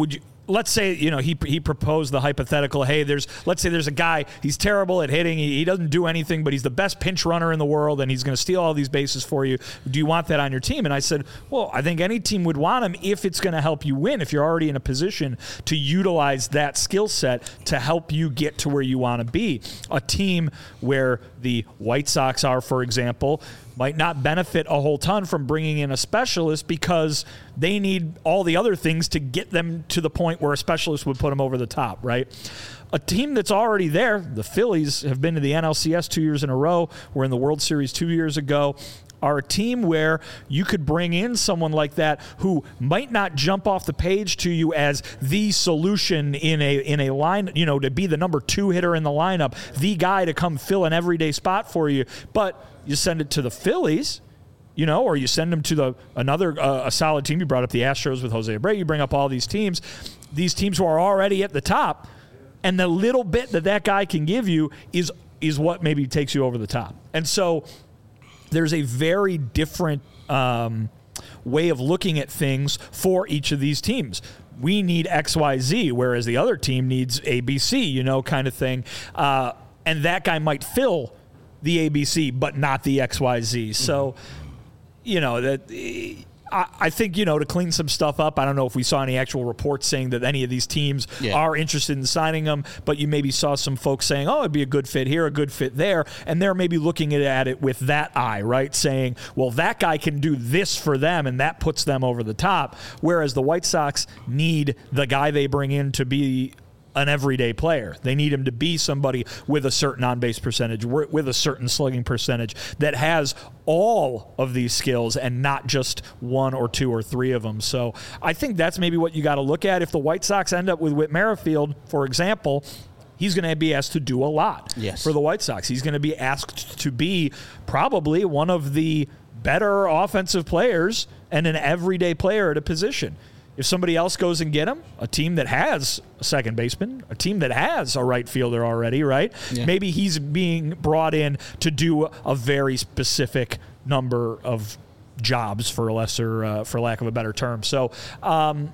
let's say, you know, he he proposed the hypothetical, hey, there's, let's say there's a guy, he's terrible at hitting, he, he doesn't do anything, but he's the best pinch runner in the world, and he's going to steal all these bases for you. Do you want that on your team? And I said, well, I think any team would want him if it's going to help you win, if you're already in a position to utilize that skill set to help you get to where you want to be. A team where the White Sox are, for example, might not benefit a whole ton from bringing in a specialist because they need all the other things to get them to the point where a specialist would put them over the top, right? A team that's already there, the Phillies have been to the N L C S two years in a row, were in the World Series two years ago, are a team where you could bring in someone like that who might not jump off the page to you as the solution in a in a line, you know, to be the number two hitter in the lineup, the guy to come fill an everyday spot for you, but you send it to the Phillies, you know, or you send them to the another uh, a solid team. You brought up the Astros with Jose Abreu. You bring up all these teams, these teams who are already at the top, and the little bit that that guy can give you is is what maybe takes you over the top. And so there's a very different um, way of looking at things for each of these teams. We need X, Y, Z, whereas the other team needs A, B, C, you know, kind of thing. Uh, and that guy might fill the A B C, but not the X Y Z. So, you know, that I, I think, you know, to clean some stuff up, I don't know if we saw any actual reports saying that any of these teams yeah. are interested in signing them, but you maybe saw some folks saying, oh, it'd be a good fit here, a good fit there, and they're maybe looking at it with that eye, right? Saying, well, that guy can do this for them, and that puts them over the top, whereas the White Sox need the guy they bring in to be an everyday player. They need him to be somebody with a certain on-base percentage, with a certain slugging percentage that has all of these skills and not just one or two or three of them. So I think that's maybe what you got to look at. If the White Sox end up with Whit Merrifield, for example, he's going to be asked to do a lot yes. for the White Sox. He's going to be asked to be probably one of the better offensive players and an everyday player at a position. If somebody else goes and get him, a team that has a second baseman, a team that has a right fielder already, right? Yeah. Maybe he's being brought in to do a very specific number of jobs, for a lesser, uh, for lack of a better term. So um,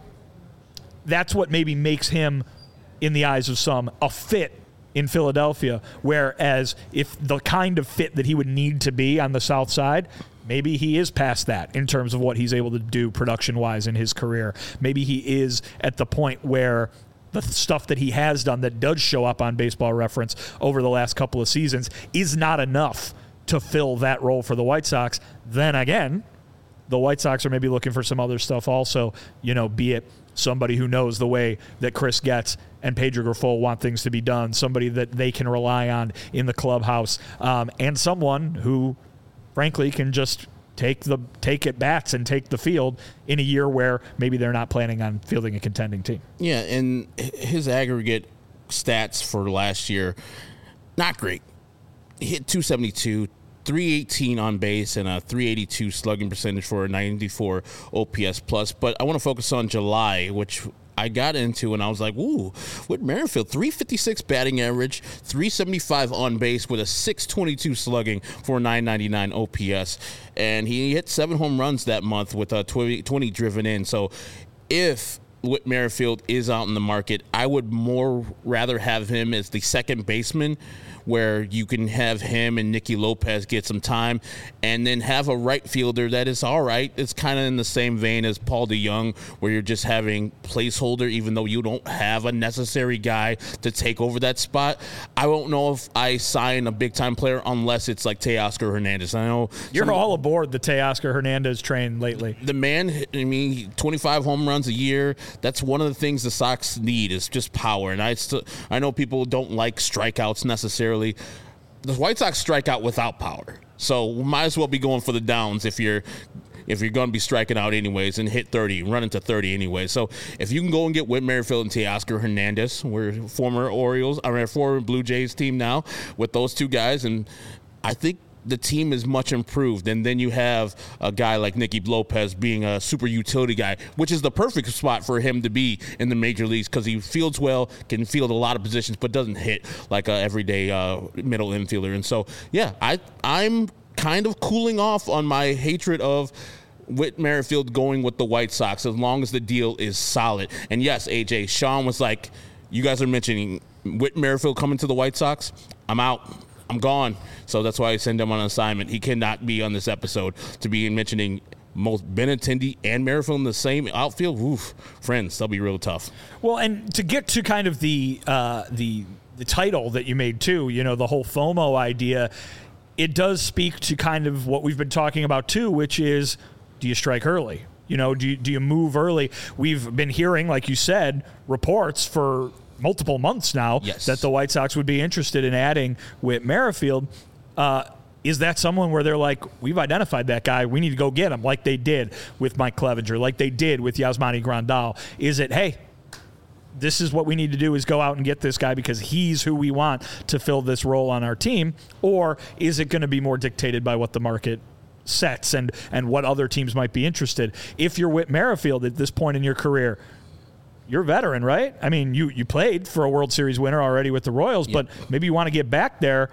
that's what maybe makes him, in the eyes of some, a fit in Philadelphia. Whereas if the kind of fit that he would need to be on the South Side, maybe he is past that in terms of what he's able to do production-wise in his career. Maybe he is at the point where the stuff that he has done that does show up on Baseball Reference over the last couple of seasons is not enough to fill that role for the White Sox. Then again, the White Sox are maybe looking for some other stuff also, you know, be it somebody who knows the way that Chris Getz and Pedro Grifol want things to be done, somebody that they can rely on in the clubhouse, um, and someone who frankly can just take the take at bats and take the field in a year where maybe they're not planning on fielding a contending team. Yeah, and his aggregate stats for last year, not great. He hit two seventy-two, three eighteen on base, and a three eighty-two slugging percentage for a ninety-four O P S plus. But I want to focus on July, which I got into, and I was like, ooh, Whit Merrifield, three fifty-six batting average, three seventy-five on base with a six twenty-two slugging for a nine ninety-nine O P S. And he hit seven home runs that month with a twenty, twenty driven in. So if Whit Merrifield is out in the market, I would more rather have him as the second baseman, where you can have him and Nicky Lopez get some time, and then have a right fielder that is all right. It's kind of in the same vein as Paul DeJong, where you're just having placeholder, even though you don't have a necessary guy to take over that spot. I won't know if I sign a big-time player unless it's like Teoscar Hernandez. I know you're some, all aboard the Teoscar Hernandez train lately. The man, I mean, twenty-five home runs a year. That's one of the things the Sox need, is just power. And I still, I know people don't like strikeouts necessarily. The White Sox strike out without power, so we might as well be going for the downs if you're if you're going to be striking out anyways and hit thirty, run into thirty anyway. So if you can go and get Whit Merrifield and Teoscar Hernandez, we're former Orioles, I mean, former Blue Jays team now with those two guys, and I think the team is much improved. And then you have a guy like Nicky Lopez being a super utility guy, which is the perfect spot for him to be in the major leagues, because he fields well, can field a lot of positions, but doesn't hit like a everyday uh, middle infielder. And so, yeah, I, I'm kind of cooling off on my hatred of Whit Merrifield going with the White Sox as long as the deal is solid. And yes, A J, Sean was like, you guys are mentioning Whit Merrifield coming to the White Sox. I'm out. I'm gone. So that's why I send him on an assignment. He cannot be on this episode to be mentioning most Benintendi and Merrifield in the same outfield. Oof, friends, that'll be real tough. Well, and to get to kind of the uh, the the title that you made too, you know, the whole FOMO idea, it does speak to kind of what we've been talking about too, which is, do you strike early? You know, do you, do you move early? We've been hearing, like you said, reports for multiple months now yes. that the White Sox would be interested in adding Whit Merrifield. Uh, is that someone where they're like, we've identified that guy, we need to go get him, like they did with Mike Clevenger, like they did with Yasmani Grandal? Is it, hey, this is what we need to do, is go out and get this guy because he's who we want to fill this role on our team? Or is it going to be more dictated by what the market sets and, and what other teams might be interested? If you're Whit Merrifield at this point in your career, you're a veteran, right? I mean, you, you played for a World Series winner already with the Royals, yep. but maybe you want to get back there.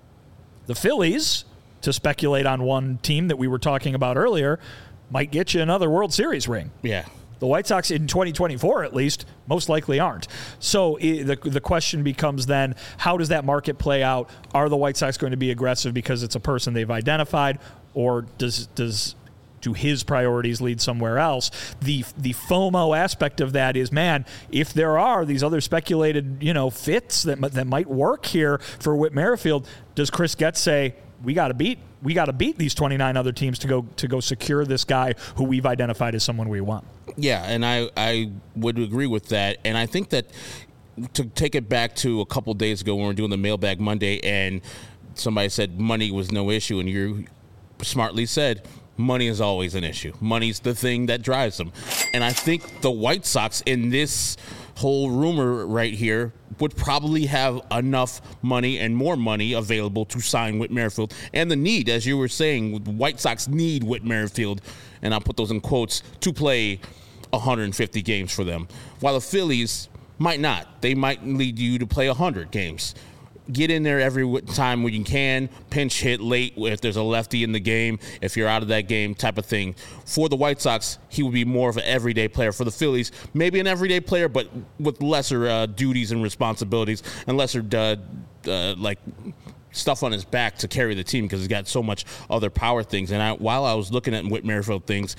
The Phillies, to speculate on one team that we were talking about earlier, might get you another World Series ring. Yeah. The White Sox in twenty twenty-four, at least, most likely aren't. So the the question becomes then, how does that market play out? Are the White Sox going to be aggressive because it's a person they've identified, or does does do his priorities lead somewhere else? The the FOMO aspect of that is, man, if there are these other speculated, you know, fits that that might work here for Whit Merrifield, does Chris Getz say, we got to beat we got to beat these twenty-nine other teams to go to go secure this guy who we've identified as someone we want? Yeah, and I, I would agree with that. And I think that to take it back to a couple days ago when we were doing the Mailbag Monday and somebody said money was no issue, and you smartly said money is always an issue. Money's the thing that drives them. And I think the White Sox in this whole rumor right here would probably have enough money and more money available to sign Whit Merrifield. And the need, as you were saying, the White Sox need Whit Merrifield, and I'll put those in quotes, to play one hundred fifty games for them. While the Phillies might not. They might lead you to play one hundred games. Get in there every time when you can, pinch hit late if there's a lefty in the game, if you're out of that game, type of thing. For the White Sox, he would be more of an everyday player. For the Phillies, maybe an everyday player, but with lesser uh, duties and responsibilities and lesser uh, uh, like stuff on his back to carry the team because he's got so much other power things. And I, while I was looking at Whit Merrifield things,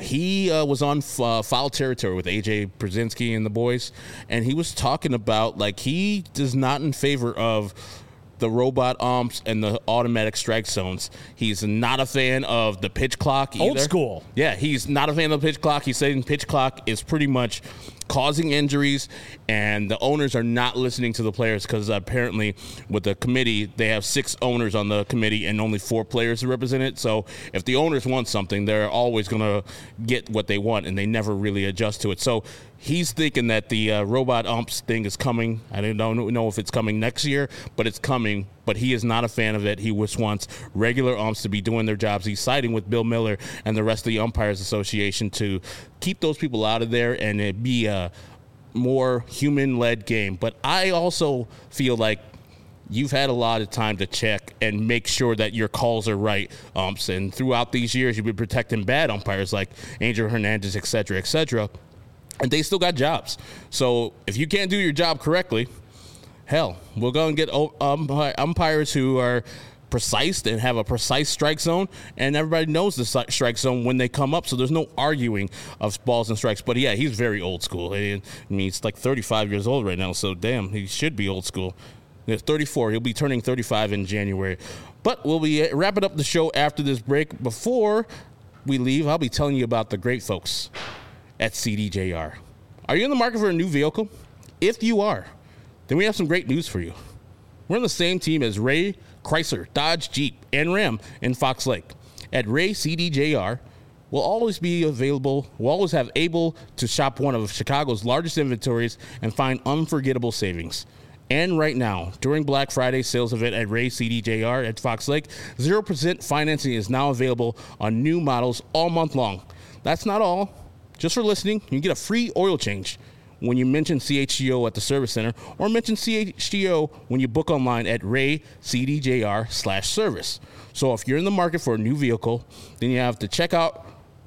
he uh, was on f- uh, foul territory with A J Brzezinski and the boys, and he was talking about, like, he is not in favor of the robot umps and the automatic strike zones. He's not a fan of the pitch clock either. Old school. Yeah, he's not a fan of the pitch clock. He's saying pitch clock is pretty much causing injuries, and the owners are not listening to the players because apparently with the committee, they have six owners on the committee and only four players to represent it. So if the owners want something, they're always going to get what they want, and they never really adjust to it. So he's thinking that the uh, robot umps thing is coming. I don't know if it's coming next year, but it's coming. But he is not a fan of it. He just wants regular umps to be doing their jobs. He's siding with Bill Miller and the rest of the Umpires Association to keep those people out of there and it be a more human-led game. But I also feel like you've had a lot of time to check and make sure that your calls are right, umps. And throughout these years, you've been protecting bad umpires like Angel Hernandez, et cetera, et cetera. And they still got jobs. So if you can't do your job correctly, hell, we'll go and get um, umpires who are precise and have a precise strike zone, and everybody knows the strike zone when they come up, so there's no arguing of balls and strikes. But, yeah, he's very old school. I mean, he's like thirty-five years old right now, so, damn, he should be old school. He's thirty-four. He'll be turning thirty-five in January. But we'll be wrapping up the show after this break. Before we leave, I'll be telling you about the great folks at C D J R. Are you in the market for a new vehicle? If you are, then we have some great news for you. We're on the same team as Ray, Chrysler, Dodge, Jeep, and Ram in Fox Lake. At Ray C D J R, we'll always be available, we'll always have able to shop one of Chicago's largest inventories and find unforgettable savings. And right now, during Black Friday sales event at Ray C D J R at Fox Lake, zero percent financing is now available on new models all month long. That's not all. Just for listening, you can get a free oil change when you mention C H G O at the service center, or mention C H G O when you book online at Ray C D J R slash service. So if you're in the market for a new vehicle, then you have to check out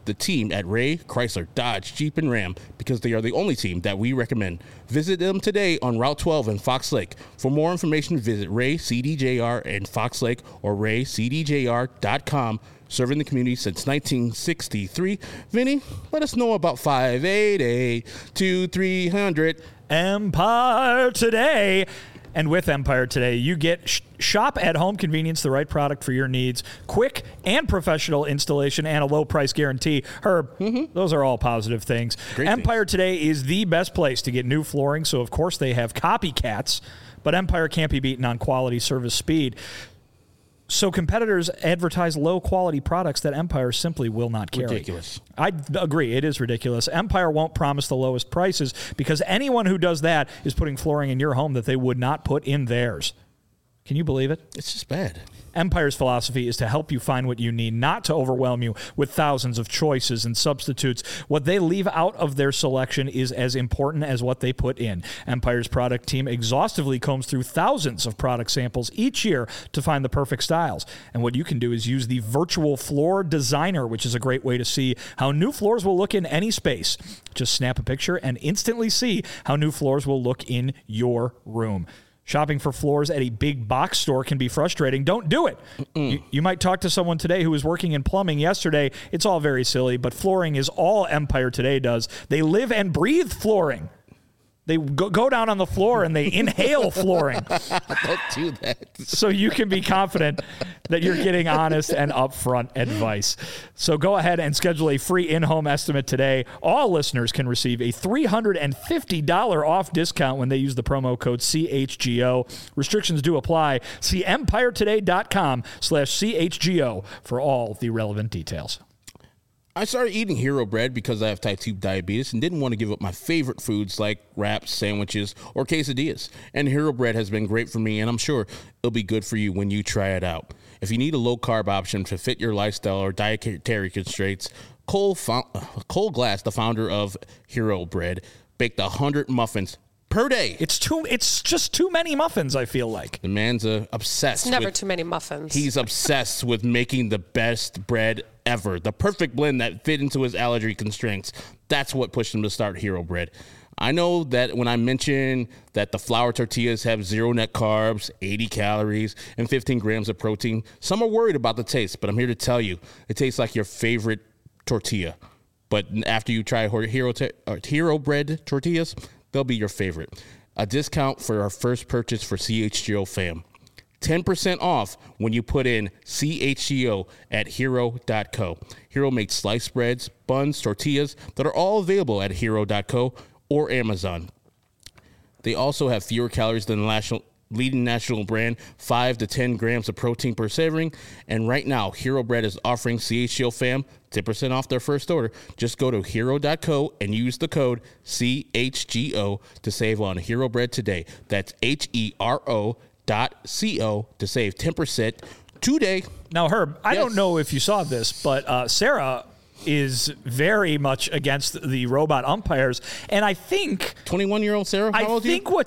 the team at Ray, Chrysler, Dodge, Jeep, and Ram because they are the only team that we recommend. Visit them today on Route twelve in Fox Lake. For more information, visit Ray C D J R in Fox Lake or ray c d j r dot com. Serving the community since nineteen sixty-three. Vinny, let us know about five eight eight, two three hundred. Empire Today. And with Empire Today, you get sh- shop at home convenience, the right product for your needs, quick and professional installation, and a low price guarantee. Herb, mm-hmm. those are all positive things. Great Empire things. Today is the best place to get new flooring, so of course they have copycats, but Empire can't be beaten on quality, service, speed. So competitors advertise low-quality products that Empire simply will not carry. Ridiculous. I agree. It is ridiculous. Empire won't promise the lowest prices because anyone who does that is putting flooring in your home that they would not put in theirs. Can you believe it? It's just bad. Empire's philosophy is to help you find what you need, not to overwhelm you with thousands of choices and substitutes. What they leave out of their selection is as important as what they put in. Empire's product team exhaustively combs through thousands of product samples each year to find the perfect styles. And what you can do is use the virtual floor designer, which is a great way to see how new floors will look in any space. Just snap a picture and instantly see how new floors will look in your room. Shopping for floors at a big box store can be frustrating. Don't do it. You, you might talk to someone today who was working in plumbing yesterday. It's all very silly, but flooring is all Empire Today does. They live and breathe flooring. They go, go down on the floor and they inhale flooring. Don't do that. So you can be confident that you're getting honest and upfront advice. So go ahead and schedule a free in-home estimate today. All listeners can receive a three hundred fifty dollars off discount when they use the promo code C H G O. Restrictions do apply. See empiretoday.com slash CHGO for all the relevant details. I started eating Hero Bread because I have type two diabetes and didn't want to give up my favorite foods like wraps, sandwiches, or quesadillas. And Hero Bread has been great for me, and I'm sure it'll be good for you when you try it out. If you need a low-carb option to fit your lifestyle or dietary constraints, Cole, Fo- Cole Glass, the founder of Hero Bread, baked one hundred muffins per day. It's too. It's just too many muffins, I feel like. The man's uh, obsessed. It's never with, too many muffins. He's obsessed with making the best bread ever. The perfect blend that fit into his allergy constraints. That's what pushed him to start Hero Bread. I know that when I mention that the flour tortillas have zero net carbs, eighty calories, and fifteen grams of protein, some are worried about the taste, but I'm here to tell you, it tastes like your favorite tortilla. But after you try Hero, te- Hero Bread tortillas, they'll be your favorite. A discount for our first purchase for C H G O fam. ten percent off when you put in C H G O at hero dot co. Hero makes sliced breads, buns, tortillas that are all available at hero dot co or Amazon. They also have fewer calories than the national, leading national brand, five to ten grams of protein per serving. And right now, Hero Bread is offering C H G O fam ten percent off their first order. Just go to hero dot co and use the code C H G O to save on Hero Bread today. That's H E R O dot C O to save ten percent today. Now, Herb, I yes. don't know if you saw this, but uh, Sarah is very much against the robot umpires, and I think twenty-one-year-old Sarah, how I old think are you? what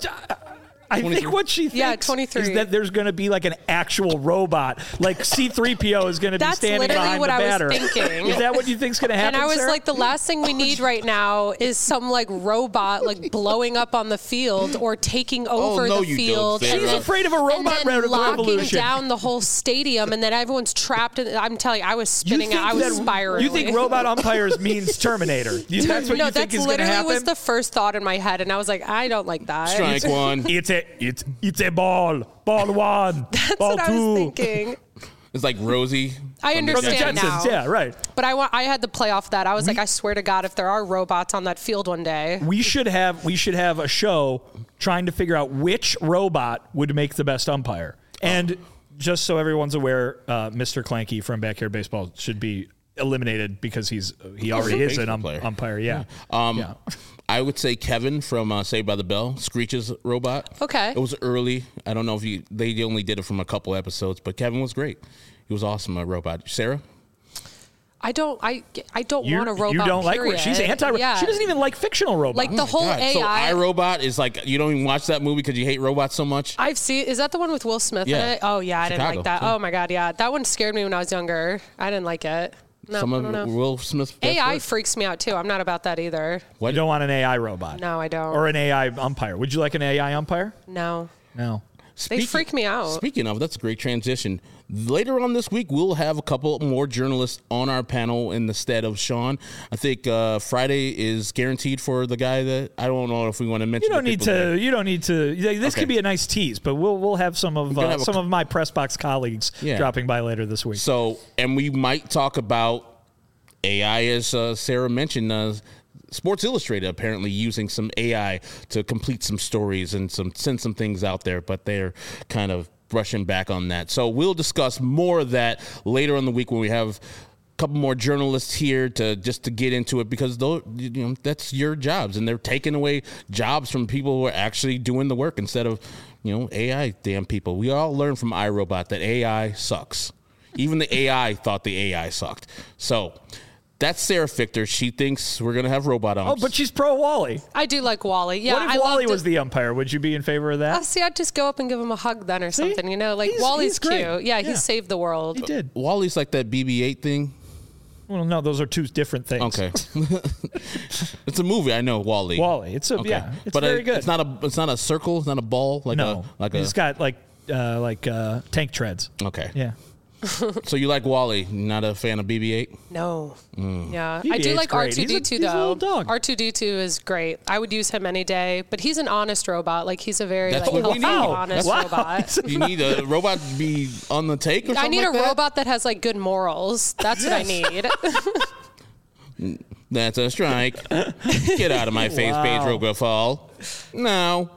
I think what she thinks yeah, twenty-three. is that there's going to be like an actual robot, like C three P O is going to be That's standing literally behind what the I was batter. thinking. Is that what you think's going to happen? And I was Sarah? like, the last thing we need right now is some like robot like blowing up on the field or taking over no, the you field. don't, and Sarah. She's afraid of a robot and then re- locking revolution. down the whole stadium, and then everyone's trapped. In, I'm telling you, I was You spinning. think I was that- spiraling. You think robot umpires means Terminator? You, that's what no, you think that's is going to literally happen? was the first thought in my head, and I was like, I don't like that. Strike one. It's a it's it's a ball. Ball one. That's ball what two. I was thinking. It's like Rosie. I from the From the understand Jetsons, now. yeah, right. But I want. I had to play off that. I was like, I swear to God, if there are robots on that field one day, We should have we should have a show trying to figure out which robot would make the best umpire. And just so everyone's aware, uh, Mister Clanky from Backyard Baseball should be eliminated because he's he already is an um, player. umpire. Yeah. Um, yeah. I would say Kevin from uh, Saved by the Bell, Screech's robot. Okay. It was early. I don't know if you they only did it from a couple episodes, but Kevin was great. He was awesome, a robot. Sarah? I don't. I. I don't You, want a robot. you don't like period. she's anti. Yeah. She doesn't even like fictional robots. Like the whole God. A I. So iRobot is like, you don't even watch that movie because you hate robots so much? I've seen. Is that the one with Will Smith Yeah. in it? Oh yeah, I didn't Chicago, like that. yeah. Oh my God, yeah, that one scared me when I was younger. I didn't like it. No, Some I of don't know. Will Smith. A I freaks me out too. I'm not about that either. You don't want an A I robot. No, I don't. Or an A I umpire. Would you like an A I umpire? No. No. They freak me out. Speaking of, that's a great transition. Later on this week, we'll have a couple more journalists on our panel in the stead of Sean. I think uh, Friday is guaranteed for the guy that I don't know if we want to mention. You don't the need people to. there. You don't need to. This Okay. could be a nice tease, but we'll we'll have some of We're gonna uh, have a some c- of my press box colleagues Yeah. dropping by later this week. So, and we might talk about A I, as uh, Sarah mentioned. Uh, Sports Illustrated apparently using some A I to complete some stories and some send some things out there, but they're kind of brushing back on that. So we'll discuss more of that later in the week when we have a couple more journalists here to just to get into it, because those, you know, that's your jobs, and they're taking away jobs from people who are actually doing the work instead of, you know, A I damn people. We all learned from iRobot that A I sucks. Even the A I thought the A I sucked. So that's Sarah Fichter. She thinks we're going to have robot Oh, umps. but she's pro Wally. I do like Wally. Yeah, what if I Wally loved was it. the umpire? Would you be in favor of that? Oh, see, I'd just go up and give him a hug then or something, you know? Like, He's- Wally's he's great. cute. Yeah, Yeah. he saved the world. He did. Wally's like that B B eight thing. Well, no, those are two different things. Okay. It's a movie. I know, Wally. Wally. It's a Okay. yeah. It's but very it- good. It's not a. It's not a circle. It's not a ball. Like no, a. Like a. he's got like uh, like uh, tank treads. Okay. Yeah. So you like Wally? Not a fan of B B eight? No. Yeah. B B I do eight's like great. R two D two, He's a- he's a little though. dog. R two D two is great. I would use him any day, but he's an honest robot. Like, he's a very, That's like, what we healthy, need. honest Wow. robot. You need a robot to be on the take or something I need like a that? robot that has, like, good morals. That's what I need. That's a strike. Get out of my face, Wow. Pedro Gaffal. No.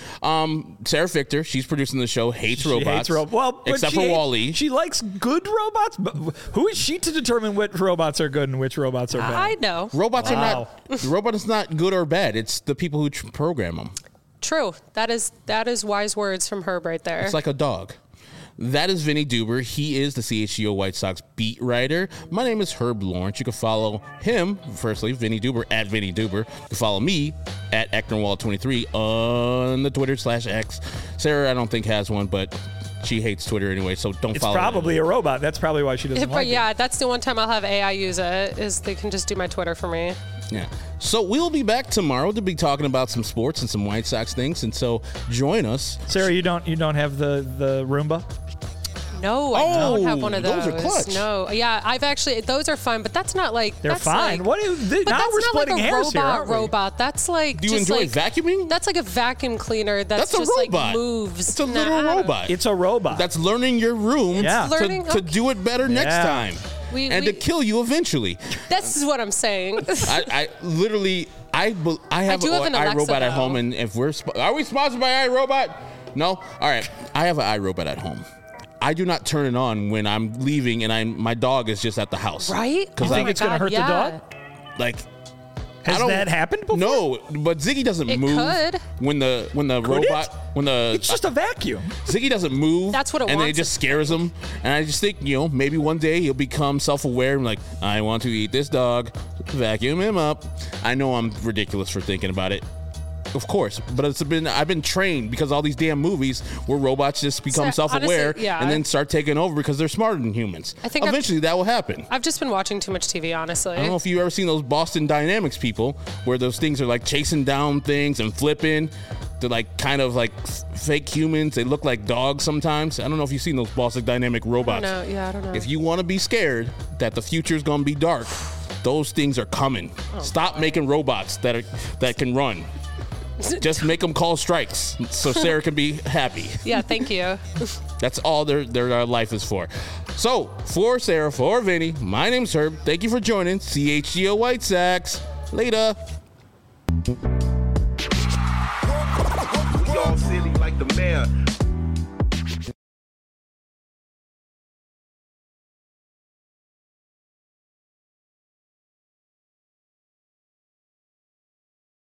Um, Sarah Fichter, she's producing the show, hates She robots. hates ro- well, but except she for hates- Wally. She likes good robots. But who is she to determine which robots are good and which robots are bad? I know. Robots Wow. are not. The robot is not good or bad. It's the people who tr- program them. True. That is that is wise words from Herb right there. It's like a dog. That is Vinny Duber. He is the C H G O White Sox beat writer. My name is Herb Lawrence. You can follow him, firstly, Vinny Duber, at Vinny Duber. You can follow me at Ecknerwall twenty-three on the Twitter slash X. Sarah, I don't think has one, but she hates Twitter anyway, so don't It's follow probably her. a robot. That's probably why she doesn't but like yeah, it. that's the one time I'll have A I use it, is they can just do my Twitter for me. Yeah. So we'll be back tomorrow to be talking about some sports and some White Sox things, and so join us. Sarah, you don't you don't have the the Roomba? No, I Oh, don't have one of those. those are clutch. No, yeah, I've actually those are fun, but that's not like They're that's fine. Like, what? Do you, th- but now that's we're not splitting like a hairs robot. here. aren't we? Robot. That's like Do you just enjoy like, vacuuming? That's like a vacuum cleaner. That's, That's a just robot. like moves. It's a Nah, little I don't- robot. It's a robot. That's learning your room Yeah. to, Learning? to Okay. do it better next Yeah. time. We- and we- to kill you eventually. This is what I'm saying. I, I literally, I, be- I have do an have an Alexa, iRobot at though. home, and if we're, sp- are we sponsored by iRobot? No? All right. I have an iRobot at home. I do not turn it on when I'm leaving and I'm my dog is just at the house. Right? Because Oh I think my it's gonna God, hurt the yeah. dog? like. Has I don't- that happened before? No, but Ziggy doesn't It move could. when the when the Could robot it? when the It's just a vacuum. Ziggy doesn't move. That's what it and then it wants just it- scares him. And I just think, you know, maybe one day he'll become self-aware and like, I want to eat this dog, vacuum him up. I know I'm ridiculous for thinking about it. Of course, but it's been I've been trained because all these damn movies where robots just become So, self-aware honestly, yeah. and then start taking over because they're smarter than humans. I think I've- eventually that will happen. I've just been watching too much T V, honestly. I don't know if you've ever seen those Boston Dynamics people where those things are like chasing down things and flipping. They're like kind of like f- fake humans. They look like dogs sometimes. I don't know if you've seen those Boston Dynamic robots. No, yeah, I don't know. If you want to be scared that the future's going to be dark, those things are coming. Oh, Stop making robots that are that can run. Just make them call strikes so Sarah can be happy. Yeah, thank you. That's all their their uh, life is for. So, for Sarah, for Vinny, my name's Herb. Thank you for joining C H G O White Sox. Later. We all silly like the mayor.